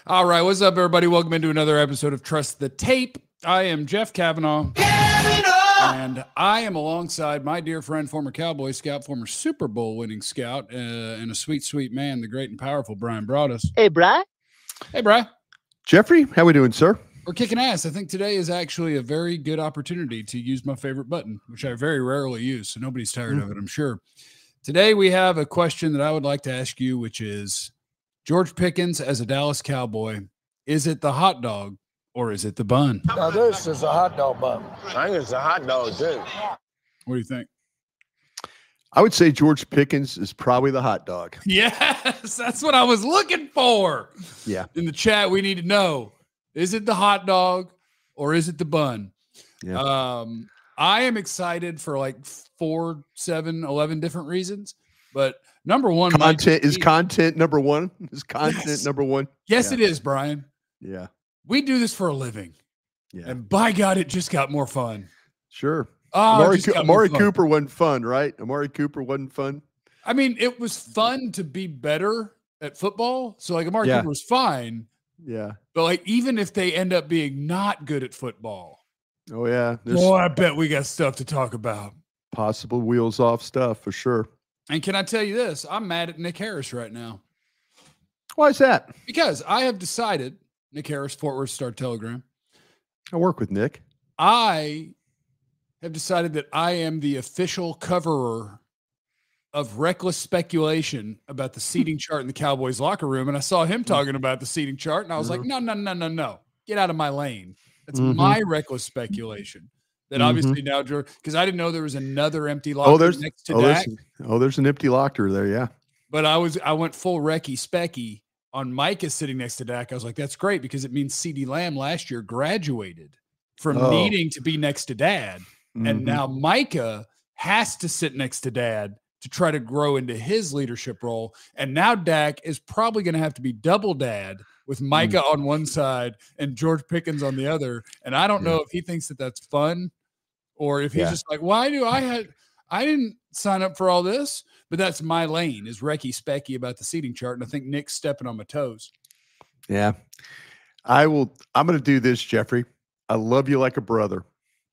All right, what's up, everybody? Welcome into another episode of Trust the Tape. I am Jeff Kavanaugh, and I am alongside my dear friend, former Cowboy Scout, former Super Bowl winning scout, and a sweet, sweet man, the great and powerful Brian Broaddus. Hey, Bri. Hey, Bri. Jeffrey, how we doing, sir? We're kicking ass. I think today is actually a very good opportunity to use my favorite button, which I very rarely use, so nobody's tired of it, I'm sure. Today we have a question that I would like to ask you, which is, George Pickens as a Dallas Cowboy, is it the hot dog or is it the bun? Now this is a hot dog bun. I think it's a hot dog, too. What do you think? I would say George Pickens is probably the hot dog. Yes, that's what I was looking for. Yeah. In the chat, we need to know, is it the hot dog or is it the bun? Yeah. I am excited for like 4, 7, 11 different reasons, but number one, content number one. Is content Yes. number one? Yes, Yeah. it is, Brian. Yeah. We do this for a living. Yeah. And by God, it just got more fun. Sure. Oh, Amari Cooper wasn't fun, right? Amari Cooper wasn't fun. I mean, it was fun to be better at football. So like Amari Cooper was fine. Yeah. But like, even if they end up being not good at football, Oh, yeah. There's boy, I bet we got stuff to talk about. possible wheels off stuff for sure. And can I tell you this? I'm mad at Nick Harris right now. Why is that? Because I have decided, Nick Harris, Fort Worth Star-Telegram, I work with Nick. I have decided that I am the official coverer of reckless speculation about the seating chart in the Cowboys locker room. And I saw him talking about the seating chart, and I was like, no. Get out of my lane. That's my reckless speculation. That obviously now, George, because I didn't know there was another empty locker next to Dak. There's an empty locker there, yeah. But I went full Recky Specky on Micah sitting next to Dak. I was like, that's great because it means CeeDee Lamb last year graduated from needing to be next to Dad. And now Micah has to sit next to Dad to try to grow into his leadership role. And now Dak is probably going to have to be double Dad with Micah on one side and George Pickens on the other. And I don't know if he thinks that that's fun or if he's just like, why do I didn't sign up for all this, but that's my lane is Recky Specky about the seating chart. And I think Nick's stepping on my toes. Yeah. I'm going to do this, Jeffrey. I love you like a brother.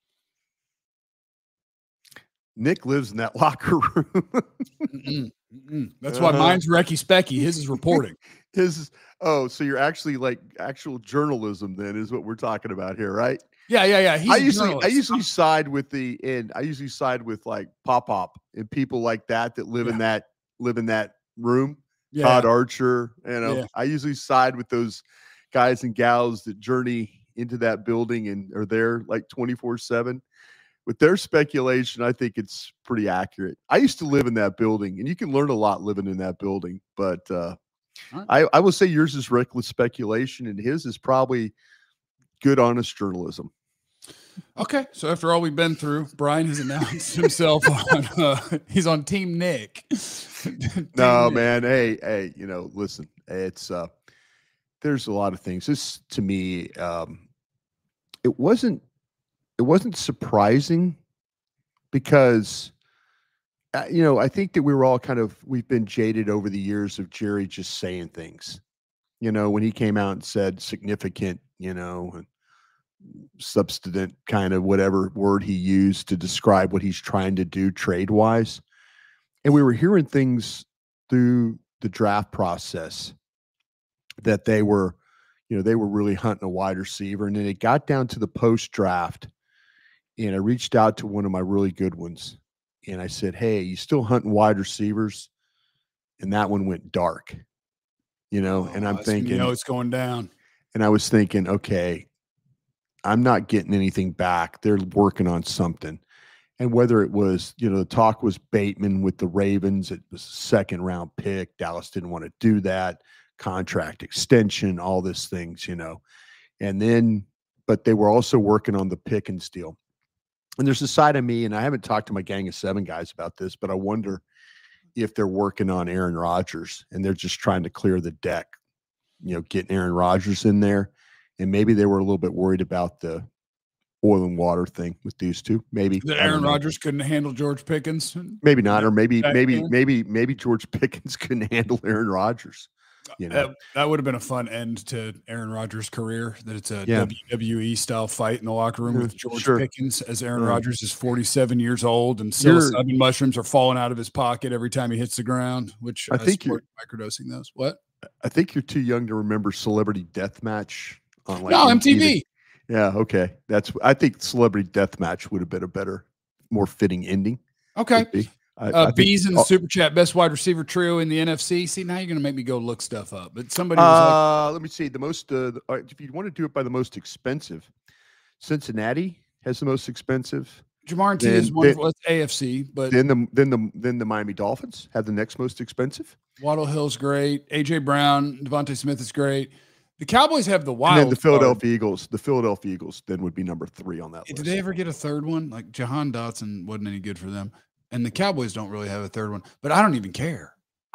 Nick lives in that locker room. That's why mine's Recky Specky. His is reporting. So you're actually like actual journalism then is what we're talking about here, right? Yeah. I usually side with like Pop and people like that live in that room. Yeah. Todd Archer, I usually side with those guys and gals that journey into that building and are there like 24/7. With their speculation, I think it's pretty accurate. I used to live in that building, and you can learn a lot living in that building. But I will say yours is reckless speculation, and his is probably good, honest journalism. Okay, so after all we've been through, Brian has announced himself on he's on Team Nick. Man. Hey, listen, it's there's a lot of things. This to me, it wasn't surprising because, I think that we were all we've been jaded over the years of Jerry just saying things, when he came out and said significant, substantive kind of whatever word he used to describe what he's trying to do trade wise. And we were hearing things through the draft process that they were really hunting a wide receiver. And then it got down to the post draft. And I reached out to one of my really good ones and I said, hey, you still hunting wide receivers? And that one went dark, and I'm thinking, it's going down. And I was thinking, okay, I'm not getting anything back. They're working on something. And whether it was, the talk was Bateman with the Ravens, it was a second round pick. Dallas didn't want to do that. Contract extension, all these things, and then, but they were also working on the Pickens deal. And there's a side of me, and I haven't talked to my gang of 7 guys about this, but I wonder if they're working on Aaron Rodgers and they're just trying to clear the deck, getting Aaron Rodgers in there. And maybe they were a little bit worried about the oil and water thing with these two. Maybe that Aaron Rodgers couldn't handle George Pickens. Maybe not, or maybe George Pickens couldn't handle Aaron Rodgers. That would have been a fun end to Aaron Rodgers' career. That it's a Yeah. WWE style fight in the locker room with George Sure. Pickens, as Aaron Rodgers is 47 years old and psilocybin mushrooms are falling out of his pocket every time he hits the ground. Which I think you're microdosing those. What? I think you're too young to remember Celebrity Deathmatch on MTV. Yeah, okay. I think Celebrity Deathmatch would have been a better, more fitting ending. Okay. Bees in the super chat, best wide receiver trio in the NFC. See, now you're going to make me go look stuff up. But somebody was let me see. The most, if you want to do it by the most expensive, Cincinnati has the most expensive. Jamar T is wonderful. That's AFC, but then the Miami Dolphins have the next most expensive. Waddle Hill's great. AJ Brown, Devontae Smith is great. The Cowboys have the wild. And then the Philadelphia Eagles. The Philadelphia Eagles then would be number 3 on that list. Did they ever get a third one? Like Jahan Dotson wasn't any good for them, and the Cowboys don't really have a third one. But I don't even care.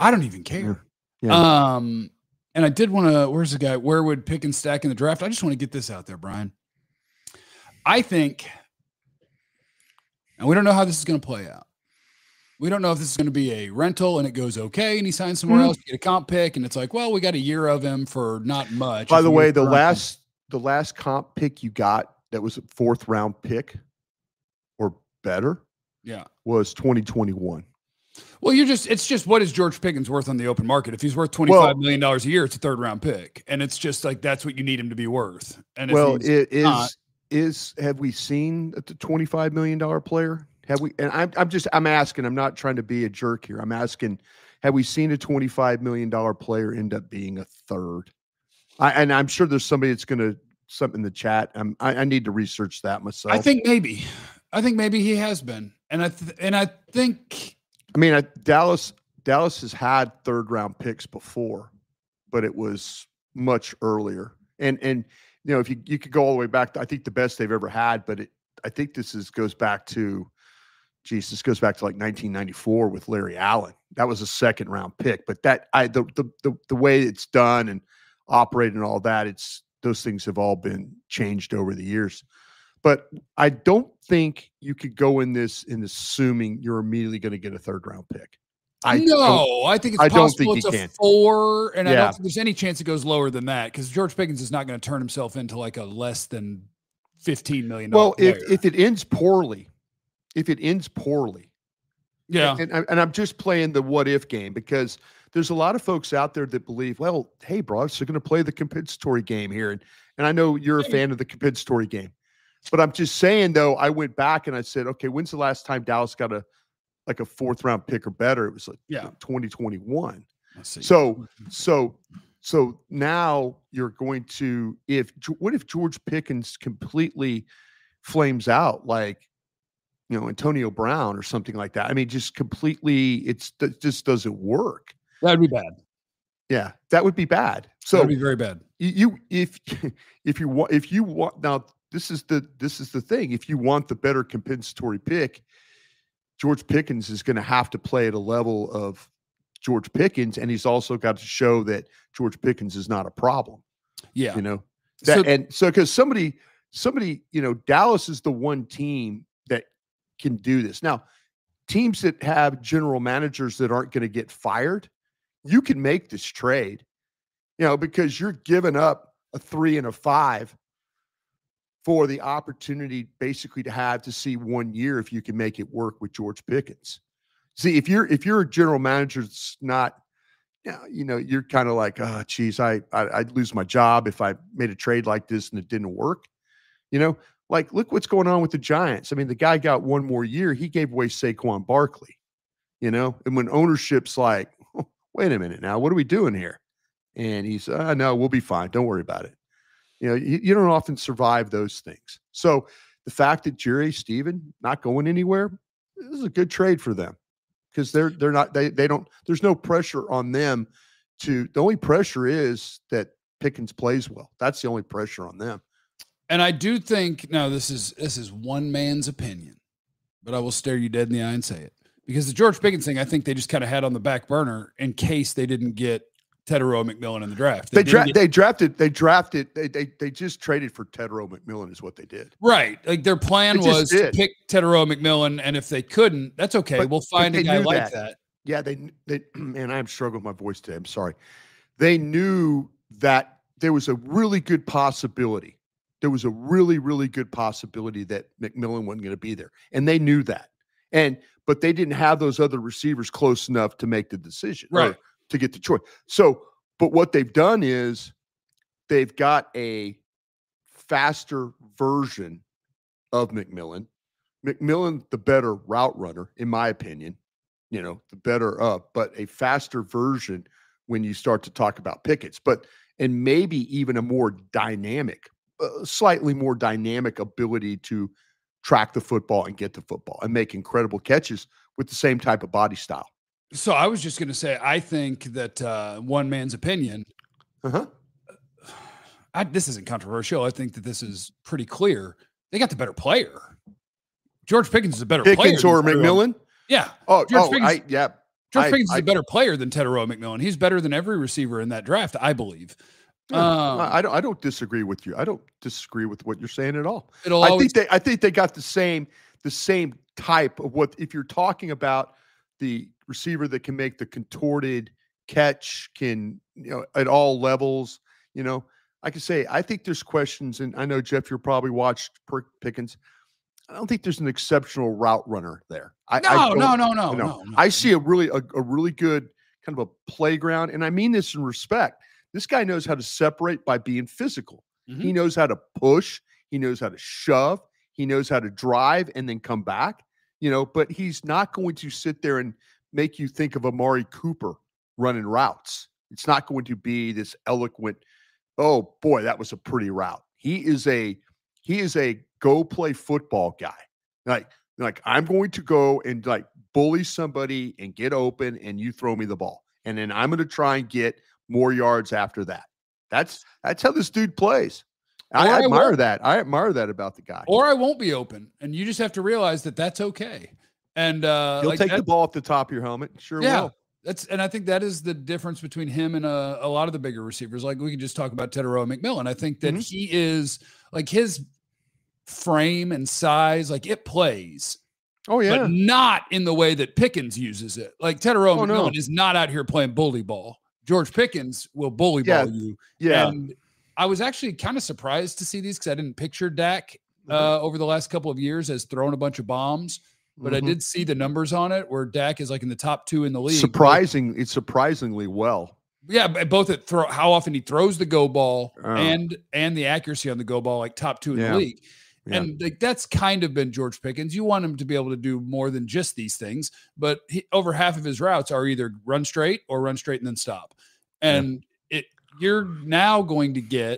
Yeah. And I did want to. Where's the guy? Where would Pickens stack in the draft? I just want to get this out there, Brian. I think, and we don't know how this is going to play out. We don't know if this is going to be a rental and it goes okay and he signs somewhere else, you get a comp pick, and it's like, well, we got a year of him for not much. By the way, the last comp pick you got that was a 4th round pick or better, was 2021. Well, it's just what is George Pickens worth on the open market? If he's worth $25 million a year, it's a 3rd round pick, and it's just like that's what you need him to be worth. And have we seen the $25 million player? Have we? And I'm asking. I'm not trying to be a jerk here. I'm asking. Have we seen a $25 million player end up being a 3rd? And I'm sure there's somebody that's going to something in the chat. I need to research that myself. I think maybe he has been, and I think. I mean, Dallas has had 3rd round picks before, but it was much earlier. And if you could go all the way back, I think the best they've ever had, but I think this goes back to like 1994 with Larry Allen. That was a 2nd round pick, but the way it's done and operated and all that, those things have all been changed over the years. But I don't think you could go in assuming you're immediately going to get a 3rd round pick. I think it's possible it's a 4, and I don't think there's any chance it goes lower than that because George Pickens is not going to turn himself into like a less than $15 million. Well, if it ends poorly, yeah. And I'm just playing the what if game because there's a lot of folks out there that believe, well, hey, bro, so they're going to play the compensatory game here, and I know you're a fan of the compensatory game, but I'm just saying though, I went back and I said, okay, when's the last time Dallas got a 4th round pick or better? It was like 2021. So now you're going to what if George Pickens completely flames out like Antonio Brown or something like that? I mean, just completely, it just doesn't work. That'd be bad. Yeah, that would be bad. So that'd be very bad. If you want now, this is the thing. If you want the better compensatory pick, George Pickens is going to have to play at a level of George Pickens, and he's also got to show that George Pickens is not a problem. Yeah, so because somebody, Dallas is the one team that can do this. Now, teams that have general managers that aren't going to get fired, you can make this trade, because you're giving up a 3 and a 5 for the opportunity basically to see 1 year if you can make it work with George Pickens. See, if you're a general manager, it's not, you're kind of like, oh, geez, I'd lose my job if I made a trade like this and it didn't work. Like, look what's going on with the Giants. I mean, the guy got 1 more year. He gave away Saquon Barkley, and when ownership's like, oh, wait a minute now, what are we doing here? And he's, no, we'll be fine. Don't worry about it. You don't often survive those things. So the fact that Jerry Stephen not going anywhere, this is a good trade for them because they're not, they don't, there's no pressure on them the only pressure is that Pickens plays well. That's the only pressure on them. And I do think, now this is one man's opinion, but I will stare you dead in the eye and say it. Because the George Pickens thing, I think they just kind of had on the back burner in case they didn't get Tetairoa McMillan in the draft. They just traded for Tetairoa McMillan is what they did. Right. Like their plan was to pick Tetairoa McMillan, and if they couldn't, that's okay. We'll find a guy like that. Yeah, they man, I'm struggling with my voice today. I'm sorry. they knew that there was a really good possibility. There was a really, really good possibility that McMillan wasn't going to be there. And they knew that. But they didn't have those other receivers close enough to make the decision, right, to get the choice. So, but what they've done is they've got a faster version of McMillan. McMillan, the better route runner, in my opinion, the better but a faster version when you start to talk about Pickett's, and maybe even a more dynamic, slightly more dynamic ability to track the football and get the football and make incredible catches with the same type of body style. So I was just going to say, I think that one man's opinion, this isn't controversial. I think that this is pretty clear. They got the better player. George Pickens is a better player. Pickens or McMillan? Yeah. George Pickens is a better player than Tetairoa McMillan. He's better than every receiver in that draft, I believe. I don't disagree with you. I don't disagree with what you're saying at all. I think they got the same type of what, if you're talking about the receiver that can make the contorted catch, can, at all levels, I can say, I think there's questions, and I know, Jeff, you're probably watched Pickens. I don't think there's an exceptional route runner there. No. I see a really good kind of a playground, and I mean this in respect. This guy knows how to separate by being physical. Mm-hmm. He knows how to push. He knows how to shove. He knows how to drive and then come back. But he's not going to sit there and make you think of Amari Cooper running routes. It's not going to be this eloquent, oh boy, that was a pretty route. He is a go play football guy. Like I'm going to go and like bully somebody and get open and you throw me the ball. And then I'm going to try and get more yards after that. That's how this dude plays. I admire that. I admire that about the guy. Or I won't be open. And you just have to realize that that's okay. And he'll take the ball off the top of your helmet. Sure will. And I think that is the difference between him and a lot of the bigger receivers. Like we can just talk about Tetairoa McMillan. I think that he is like his frame and size, like it plays. Oh yeah. But not in the way that Pickens uses it. Like Tetairoa McMillan is not out here playing bully ball. George Pickens will bully ball you. Yeah. And I was actually kind of surprised to see these because I didn't picture Dak over the last couple of years as throwing a bunch of bombs. But I did see the numbers on it where Dak is like in the top 2 in the league. It's surprisingly well. Yeah, both at how often he throws the go ball and the accuracy on the go ball, like top 2 in the league. Yeah. And like that's kind of been George Pickens. You want him to be able to do more than just these things, but over half of his routes are either run straight or run straight and then stop. And you're now going to get.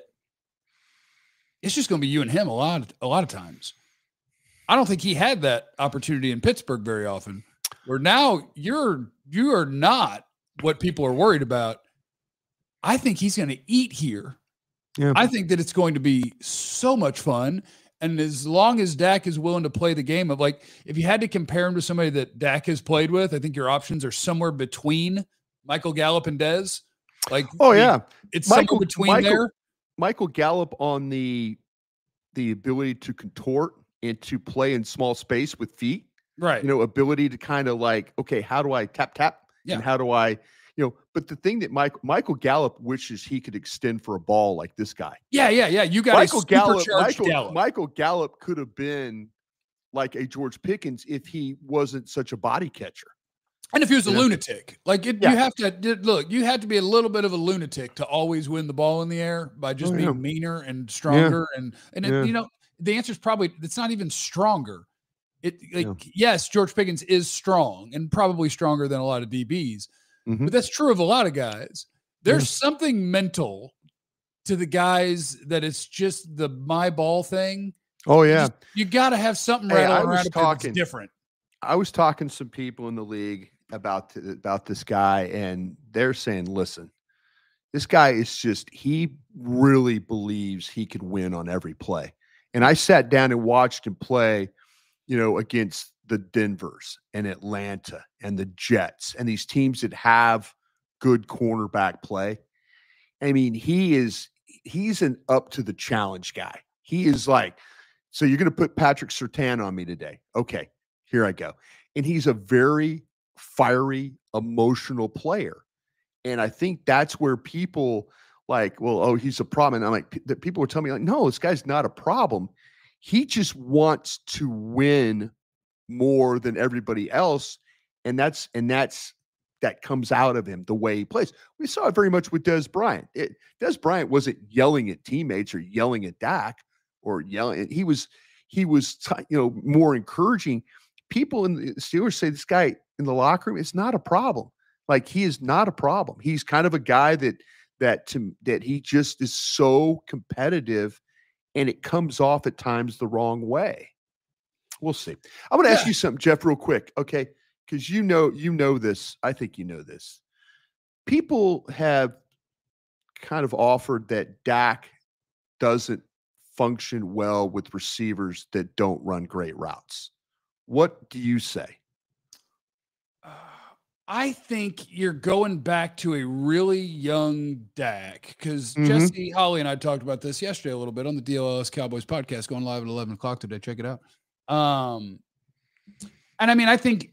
It's just going to be you and him a lot of times. I don't think he had that opportunity in Pittsburgh very often. Where now you are not what people are worried about. I think he's going to eat here. Yeah. I think that it's going to be so much fun. And as long as Dak is willing to play the game of like, if you had to compare him to somebody that Dak has played with, I think your options are somewhere between Michael Gallup and Dez. Like, it's somewhere between there. Michael Gallup on the ability to contort and to play in small space with feet, right? Ability to kind of like, okay, how do I tap? And how do I, but the thing that Michael Gallup wishes he could extend for a ball like this guy. Yeah. You got Michael Gallup. Michael Gallup could have been like a George Pickens if he wasn't such a body catcher. And if he was a lunatic, like you have to look, you had to be a little bit of a lunatic to always win the ball in the air by just being meaner and stronger. And the answer is probably, it's not even stronger. Yes, George Pickens is strong and probably stronger than a lot of DBs. But that's true of a lot of guys. There's something mental to the guys that it's just the my ball thing. Oh, yeah. You got to have something rattling around that's different. I was talking to some people in the league about this guy, and they're saying, listen, this guy is just, he really believes he could win on every play. And I sat down and watched him play, against the Denvers and Atlanta and the Jets and these teams that have good cornerback play. I mean, he's an up to the challenge guy. He is like, so you're going to put Patrick Surtain on me today. Okay, here I go. And he's a very fiery, emotional player. And I think that's where people like, well, oh, he's a problem. And I'm like, that people were telling me like, no, this guy's not a problem. He just wants to win more than everybody else. And that comes out of him the way he plays. We saw it very much with Dez Bryant. Dez Bryant wasn't yelling at teammates or yelling at Dak or yelling. He was more encouraging. People in the Steelers say this guy in the locker room, it's not a problem. Like, he is not a problem. He's kind of a guy that he just is so competitive, and it comes off at times the wrong way. We'll see. I'm going to ask you something, Jeff, real quick. Okay. Because you know this. I think you know this. People have kind of offered that Dak doesn't function well with receivers that don't run great routes. What do you say? I think you're going back to a really young Dak, because Jesse Holly and I talked about this yesterday a little bit on the DLS Cowboys podcast, going live at 11 o'clock today. Check it out. And I mean, I think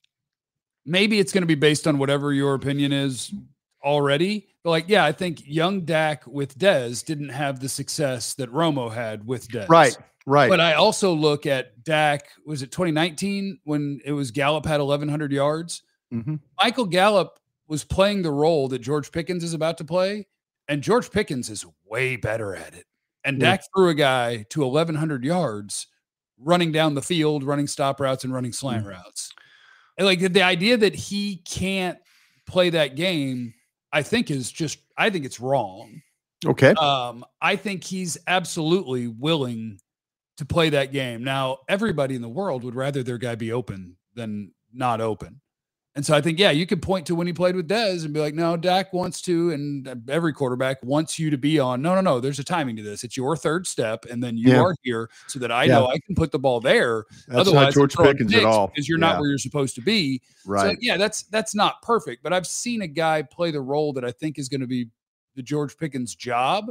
maybe it's going to be based on whatever your opinion is already. But like, yeah, I think young Dak with Dez didn't have the success that Romo had with Dez. Right. But I also look at Dak, was it 2019 when it was Gallup had 1,100 yards? Mm-hmm. Michael Gallup was playing the role that George Pickens is about to play, and George Pickens is way better at it. And Dak threw a guy to 1,100 yards running down the field, running stop routes and running slant routes. And like the idea that he can't play that game, I think it's wrong. Okay. I think he's absolutely willing to play that game. Now, everybody in the world would rather their guy be open than not open. And so I think, you could point to when he played with Dez and be like, no, Dak wants to, and every quarterback wants you to be on. No, there's a timing to this. It's your third step, and then you are here so that I know I can put the ball there. That's Otherwise, not George Pickens at all. Because you're not where you're supposed to be. Right. So, that's not perfect. But I've seen a guy play the role that I think is going to be the George Pickens job,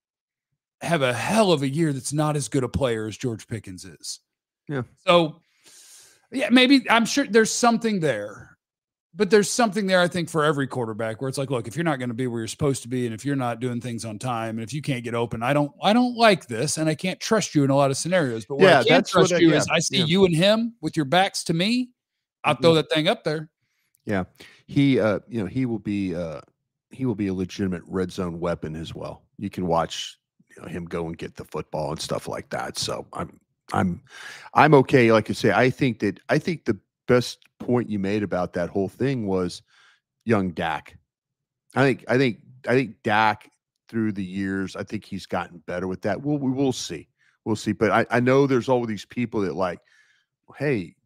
have a hell of a year that's not as good a player as George Pickens is. Yeah. So, maybe I'm sure there's something there. But there's something there, I think, for every quarterback where it's like, look, if you're not going to be where you're supposed to be, and if you're not doing things on time, and if you can't get open, I don't like this, and I can't trust you in a lot of scenarios. But where I can trust you is I see you and him with your backs to me. I'll throw that thing up there. Yeah, he will be a legitimate red zone weapon as well. You can watch him go and get the football and stuff like that. So I'm okay. Like I say, I think the best point you made about that whole thing was young Dak. I think Dak through the years, I think he's gotten better with that. We will see. We'll see. But I know there's all these people that like, hey,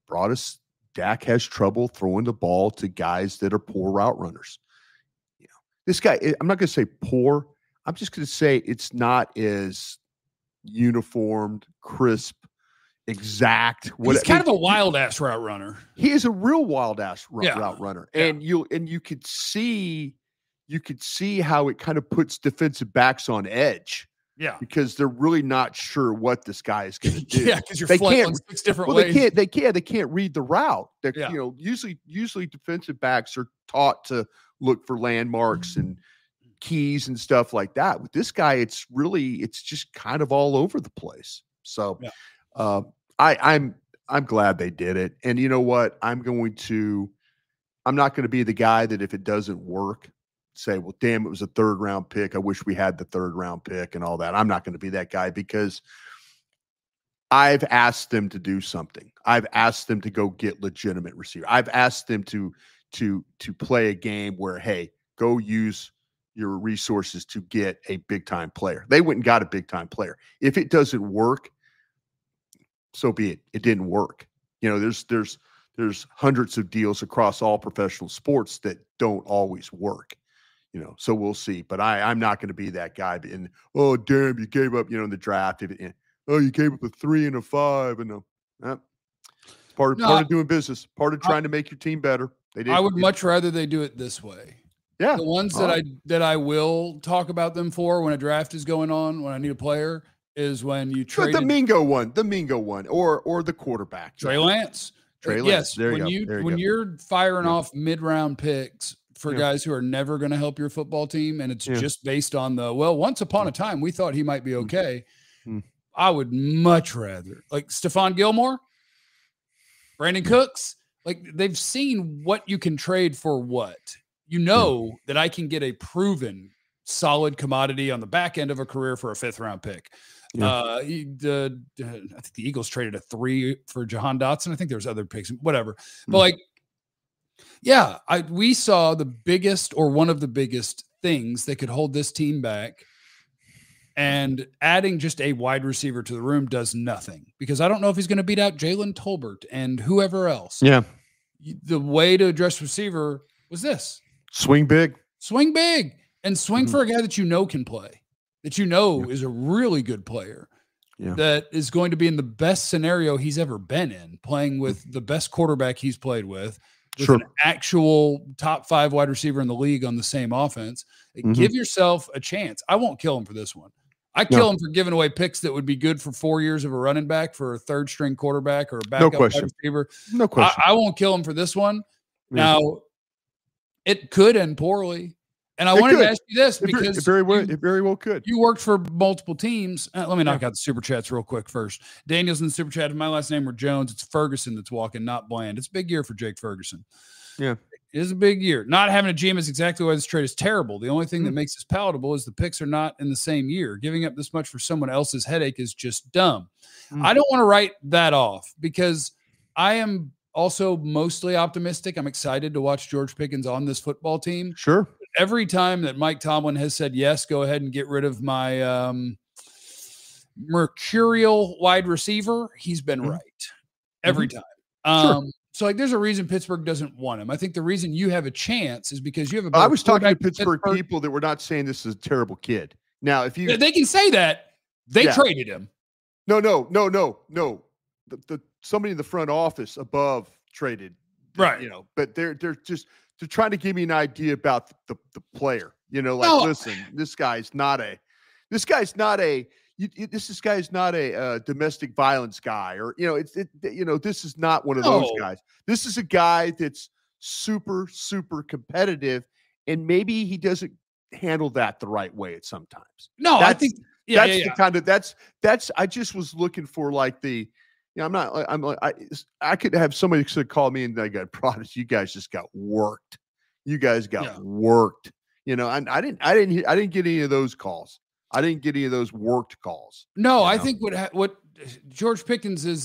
Dak has trouble throwing the ball to guys that are poor route runners. This guy, I'm not going to say poor. I'm just going to say it's not as uniformed, crisp, exact. He's kind of a wild ass route runner. He is a real wild ass route runner, and you could see how it kind of puts defensive backs on edge. Yeah, because they're really not sure what this guy is going to do. Yeah, because you're flipping on 6 different ways. They can't read the route. Usually defensive backs are taught to look for landmarks and keys and stuff like that. With this guy, it's just kind of all over the place. So. I'm glad they did it. And you know what? I'm not going to be the guy that if it doesn't work, say, well, damn, it was a 3rd round pick. I wish we had the 3rd round pick and all that. I'm not going to be that guy because I've asked them to do something. I've asked them to go get legitimate receiver. I've asked them to play a game where, hey, go use your resources to get a big time player. They went and got a big time player. If it doesn't work, so be it. It didn't work. There's hundreds of deals across all professional sports that don't always work. So we'll see. But I'm not going to be that guy. And oh damn, you gave up. In the draft. You gave up a 3 and a 5, and it's part of doing business. Part of trying to make your team better. I would much rather they do it this way. Yeah, the ones that I will talk about them for when a draft is going on, when I need a player, is when you trade the Mingo one, or the quarterback, Trey Lance. Trey Lance. Yes, when you're firing off mid-round picks for guys who are never going to help your football team, and it's just based on once upon a time we thought he might be okay. I would much rather, like Stephon Gilmore, Brandon Cooks, like they've seen what you can trade for what. That I can get a proven solid commodity on the back end of a career for a 5th-round pick. I think the Eagles traded a 3 for Jahan Dotson. I think there's other picks, whatever. But we saw the biggest or one of the biggest things that could hold this team back. And adding just a wide receiver to the room does nothing, because I don't know if he's going to beat out Jalen Tolbert and whoever else. Yeah. The way to address receiver was this: swing big, and swing for a guy that can play, that is a really good player, that is going to be in the best scenario he's ever been in, playing with the best quarterback he's played with an actual top 5 wide receiver in the league on the same offense. Give yourself a chance. I won't kill him for this one. I kill him for giving away picks that would be good for 4 years of a running back, for a 3rd-string quarterback, or a backup wide receiver. No question. I won't kill him for this one. Now, it could end poorly. And I wanted to ask you this, because it very well could. You worked for multiple teams. Let me knock out the super chats real quick first. Daniel's in the super chat. If my last name were Jones, it's Ferguson that's walking, not Bland. It's a big year for Jake Ferguson. Yeah. It is a big year. Not having a GM is exactly why this trade is terrible. The only thing that makes this palatable is the picks are not in the same year. Giving up this much for someone else's headache is just dumb. I don't want to write that off, because I am also mostly optimistic. I'm excited to watch George Pickens on this football team. Sure. Every time that Mike Tomlin has said, yes, go ahead and get rid of my mercurial wide receiver, he's been right every time. So there's a reason Pittsburgh doesn't want him. I think the reason you have a chance is because you have I was talking to Pittsburgh people that were not saying this is a terrible kid. Now, if they can say that, they traded him. No. The somebody in the front office above traded, right? But they're trying to give me an idea about the player. Listen, this guy's not a domestic violence guy, or this is not one of those guys. This is a guy that's super, super competitive, and maybe he doesn't handle that the right way at sometimes. I think the kind of that's I just was looking for I could have somebody call me and they got prodded. You guys just got worked. You guys got worked. I didn't get any of those calls. I didn't get any of those worked calls. No, I think what George Pickens is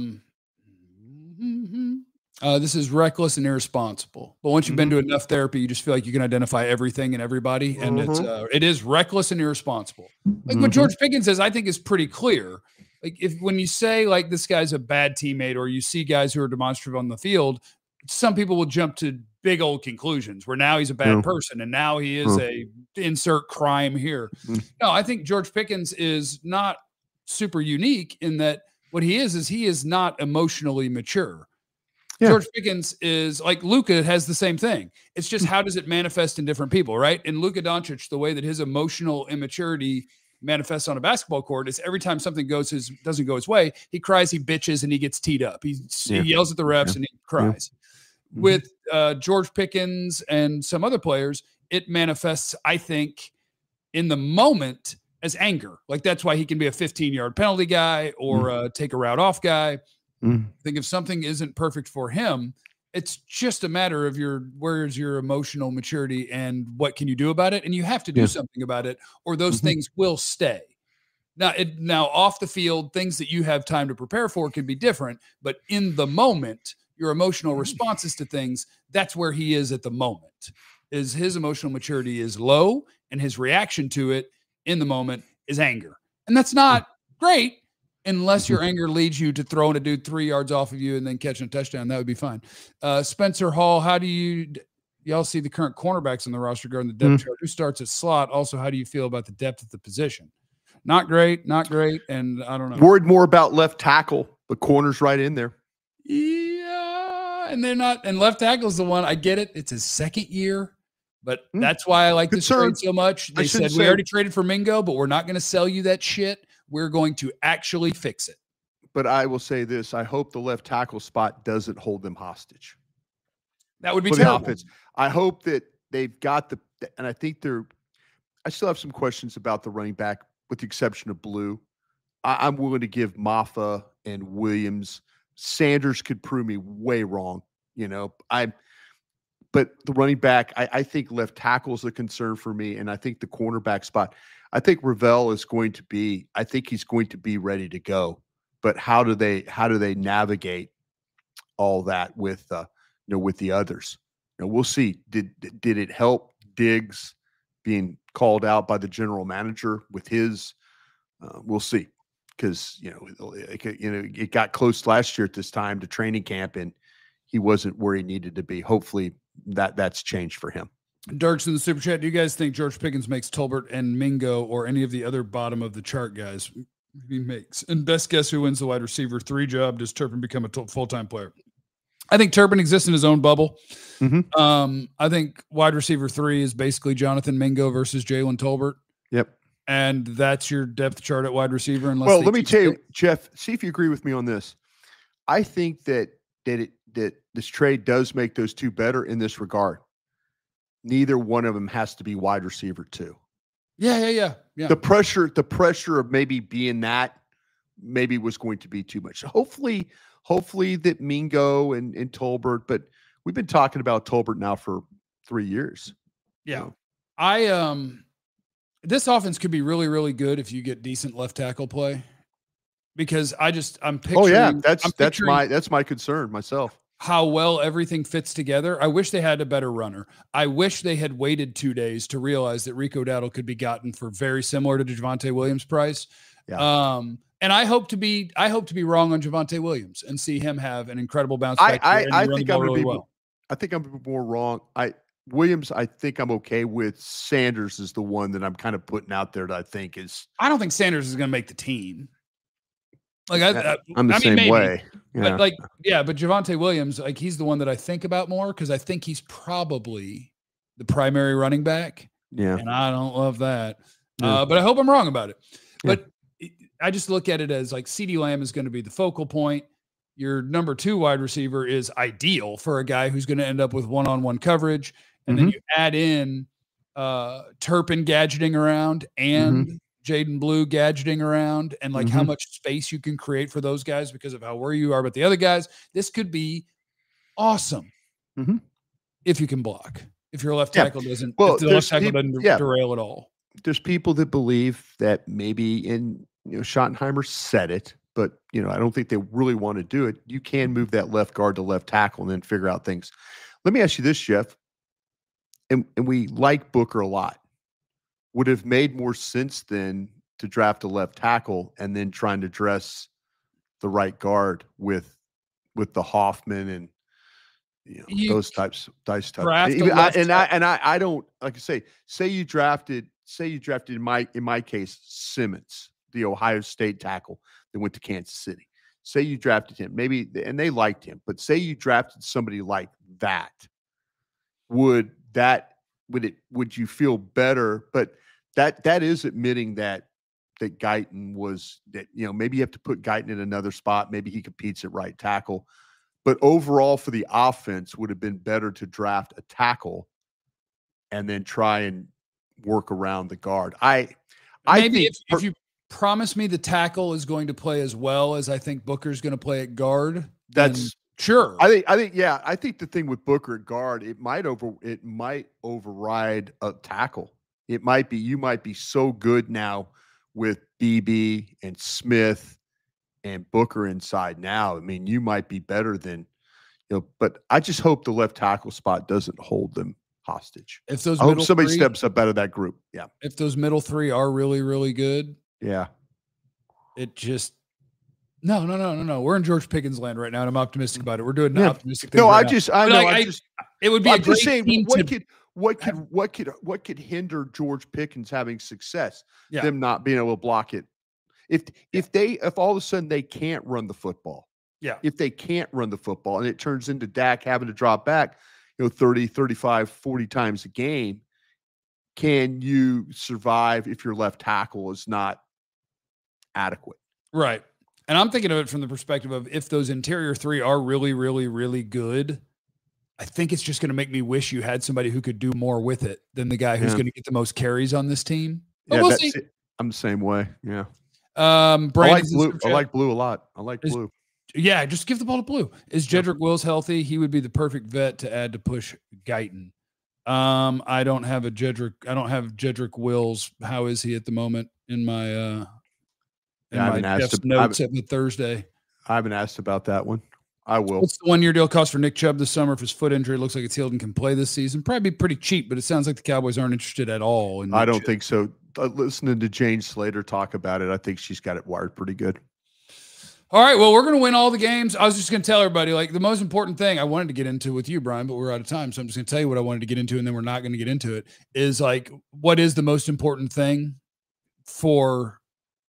this is reckless and irresponsible. But once you've been to enough therapy, you just feel like you can identify everything and everybody, and it is reckless and irresponsible. Like what George Pickens says, I think is pretty clear. Like when you say like this guy's a bad teammate, or you see guys who are demonstrative on the field, some people will jump to big old conclusions where now he's a bad person and now he is a insert crime here. No, I think George Pickens is not super unique in that what he is not emotionally mature. George Pickens is like Luka has the same thing. It's just how does it manifest in different people, right? And Luka Doncic, the way that his emotional immaturity manifests on a basketball court is every time something doesn't go his way, he cries, he bitches, and he gets teed up. He yells at the refs and he cries. With George Pickens and some other players, it manifests, I think, in the moment as anger. Like that's why he can be a 15-yard penalty guy or take a route off guy. I think if something isn't perfect for him, it's just a matter of where's your emotional maturity and what can you do about it? And you have to do something about it, or those things will stay. Now off the field, things that you have time to prepare for can be different, but in the moment, your emotional responses to things, that's where he is at the moment. Is his emotional maturity is low, and his reaction to it in the moment is anger. And that's not great unless your anger leads you to throwing a dude 3 yards off of you and then catching a touchdown. That would be fine. Spencer Hall, how do y'all see the current cornerbacks on the roster regarding the depth chart? Who starts at slot? Also, how do you feel about the depth of the position? Not great. And I don't know. Worried more about left tackle. The corner's right in there. Yeah. And they're not, and left tackle is the one. I get it. It's his second year. But that's why I like this trade so much. They said, we already traded for Mingo, but we're not going to sell you that shit. We're going to actually fix it. But I will say this. I hope the left tackle spot doesn't hold them hostage. That would be terrible. I hope that they've got and I think I still have some questions about the running back, with the exception of Blue. I'm willing to give Maffa and Williams. Sanders could prove me way wrong. But the running back, I think left tackle is a concern for me, and I think the cornerback spot. I think Ravel is going to be. I think he's going to be ready to go. But how do they navigate all that with with the others? We'll see. Did it help Diggs being called out by the general manager with his? We'll see, because it got close last year at this time to training camp, and he wasn't where he needed to be. Hopefully that's changed for him. Dirk's in the super chat. Do you guys think George Pickens makes Tolbert and Mingo or any of the other bottom of the chart guys? He makes. And best guess who wins the wide receiver 3 job? Does Turpin become a full-time player? I think Turpin exists in his own bubble. Mm-hmm. I think wide receiver 3 is basically Jonathan Mingo versus Jalen Tolbert. Yep. And that's your depth chart at wide receiver. Well, let me tell you, Jeff, see if you agree with me on this. I think that this trade does make those two better in this regard. Neither one of them has to be wide receiver 2. Yeah. The pressure of maybe being that maybe was going to be too much. Hopefully that Mingo and Tolbert, but we've been talking about Tolbert now for 3 years. Yeah. This offense could be really, really good if you get decent left tackle play, because I'm picturing. Oh yeah, that's my concern myself. How well everything fits together. I wish they had a better runner. I wish they had waited 2 days to realize that Rico Dowdle could be gotten for very similar to Javonte Williams price. Yeah. And I hope to be wrong on Javonte Williams and see him have an incredible bounce back. I think I'm really well. I think I'm more wrong. Williams, I think I'm okay with. Sanders is the one that I'm kind of putting out there that I think is. I don't think Sanders is going to make the team. Like I'm the same maybe, way. Yeah. But Javonte Williams, he's the one that I think about more, because I think he's probably the primary running back. Yeah. And I don't love that. Yeah. But I hope I'm wrong about it. Yeah. But I just look at it as CeeDee Lamb is going to be the focal point. Your number 2 wide receiver is ideal for a guy who's going to end up with one-on-one coverage. And then you add in Turpin gadgeting around and Jaden Blue gadgeting around, and how much space you can create for those guys because of how worried you are about the other guys. This could be awesome if you can block. If your left tackle doesn't, if the left tackle doesn't derail at all. There's people that believe that maybe Schottenheimer said it, but I don't think they really want to do it. You can move that left guard to left tackle and then figure out things. Let me ask you this, Jeff. And we like Booker a lot. Would have made more sense then to draft a left tackle and then trying to dress the right guard with the Hoffman and those types. I don't, like I say you drafted in my case Simmons, the Ohio State tackle that went to Kansas City. Say you drafted him, maybe, and they liked him, but say you drafted somebody like that. Would you feel better? But that is admitting that Guyton was maybe you have to put Guyton in another spot. Maybe he competes at right tackle, but overall for the offense would have been better to draft a tackle and then try and work around the guard. I think if you promise me the tackle is going to play as well as I think Booker's going to play at guard, that's. Sure. I think the thing with Booker at guard, it might override a tackle. It might be, you might be so good now with BB and Smith and Booker inside now. I mean, you might be better than, but I just hope the left tackle spot doesn't hold them hostage. If those I hope somebody steps up out of that group. Yeah. If those middle 3 are really, really good. Yeah. It just, No. We're in George Pickens land right now, and I'm optimistic about it. We're doing optimistic things. No, right it would be. I'm just saying, what could hinder George Pickens having success? Yeah. Them not being able to block it. If all of a sudden they can't run the football. Yeah. If they can't run the football and it turns into Dak having to drop back, 30, 35, 40 times a game, can you survive if your left tackle is not adequate? Right. And I'm thinking of it from the perspective of if those interior 3 are really, really, really good, I think it's just going to make me wish you had somebody who could do more with it than the guy who's going to get the most carries on this team. But Yeah, we'll that's see. it. I'm the same way. Yeah. Brandon's I like Blue a lot. I like Blue. Yeah, just give the ball to Blue. Is Jedrick Wills healthy? He would be the perfect vet to add to push Guyton. I don't have Jedrick Wills. How is he at the moment in my notes at the Thursday? I haven't asked about that one. I will. What's the 1-year deal cost for Nick Chubb this summer if his foot injury looks like it's healed and can play this season? Probably pretty cheap, but it sounds like the Cowboys aren't interested at all. I don't think so. Listening to Jane Slater talk about it, I think she's got it wired pretty good. All right, well, we're going to win all the games. I was just going to tell everybody, like, the most important thing I wanted to get into with you, Brian, but we're out of time, so I'm just going to tell you what I wanted to get into, and then we're not going to get into it, is, like, what is the most important thing for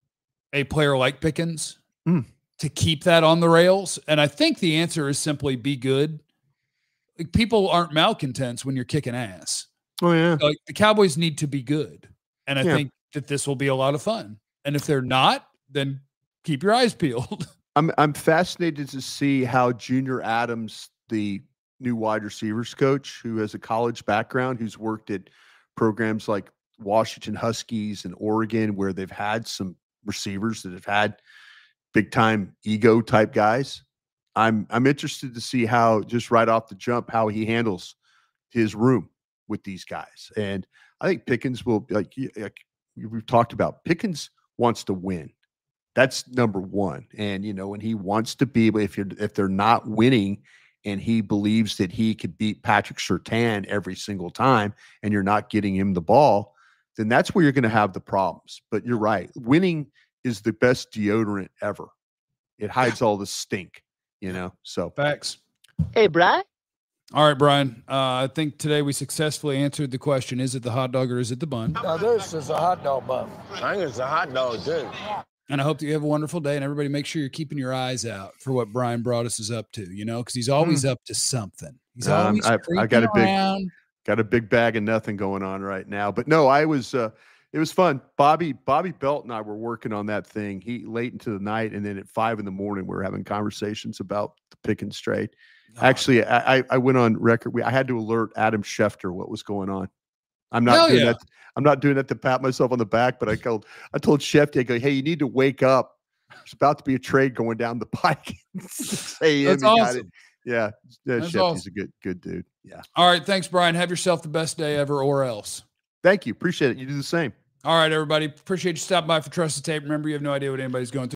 a player like Pickens to keep that on the rails? And I think the answer is simply be good. Like, people aren't malcontents when you're kicking ass. Oh, yeah. Like, the Cowboys need to be good, and I think that this will be a lot of fun. And if they're not, then keep your eyes peeled. I'm fascinated to see how Junior Adams, the new wide receivers coach, who has a college background, who's worked at programs like Washington Huskies and Oregon, where they've had some receivers that have had big time ego type guys. I'm interested to see how, just right off the jump, how he handles his room with these guys. And I think Pickens will, like we've talked about, Pickens wants to win. That's number one. And, when he wants to be, if they're not winning and he believes that he could beat Patrick Surtain every single time and you're not getting him the ball, then that's where you're going to have the problems. But you're right. Winning is the best deodorant ever. It hides all the stink, so. Facts. Hey, Brian. All right, Brian. I think today we successfully answered the question, is it the hot dog or is it the bun? Now, this is a hot dog bun. I think it's a hot dog, too. And I hope that you have a wonderful day, and everybody make sure you're keeping your eyes out for what Brian Broaddus is up to, because he's always up to something. He's always I got a big bag of nothing going on right now. But no, it was fun. Bobby Belt and I were working on that thing. He late into the night, and then at 5 a.m, we were having conversations about the Pickens trade. Actually, I went on record. I had to alert Adam Schefter what was going on. I'm not doing that. I'm not doing that to pat myself on the back, but I told Shefty, I go, hey, you need to wake up. There's about to be a trade going down the pike. That's awesome. Yeah. Shefty's awesome. a good dude. Yeah. All right. Thanks, Brian. Have yourself the best day ever or else. Thank you. Appreciate it. You do the same. All right, everybody. Appreciate you stopping by for Trusted Tape. Remember, you have no idea what anybody's going through.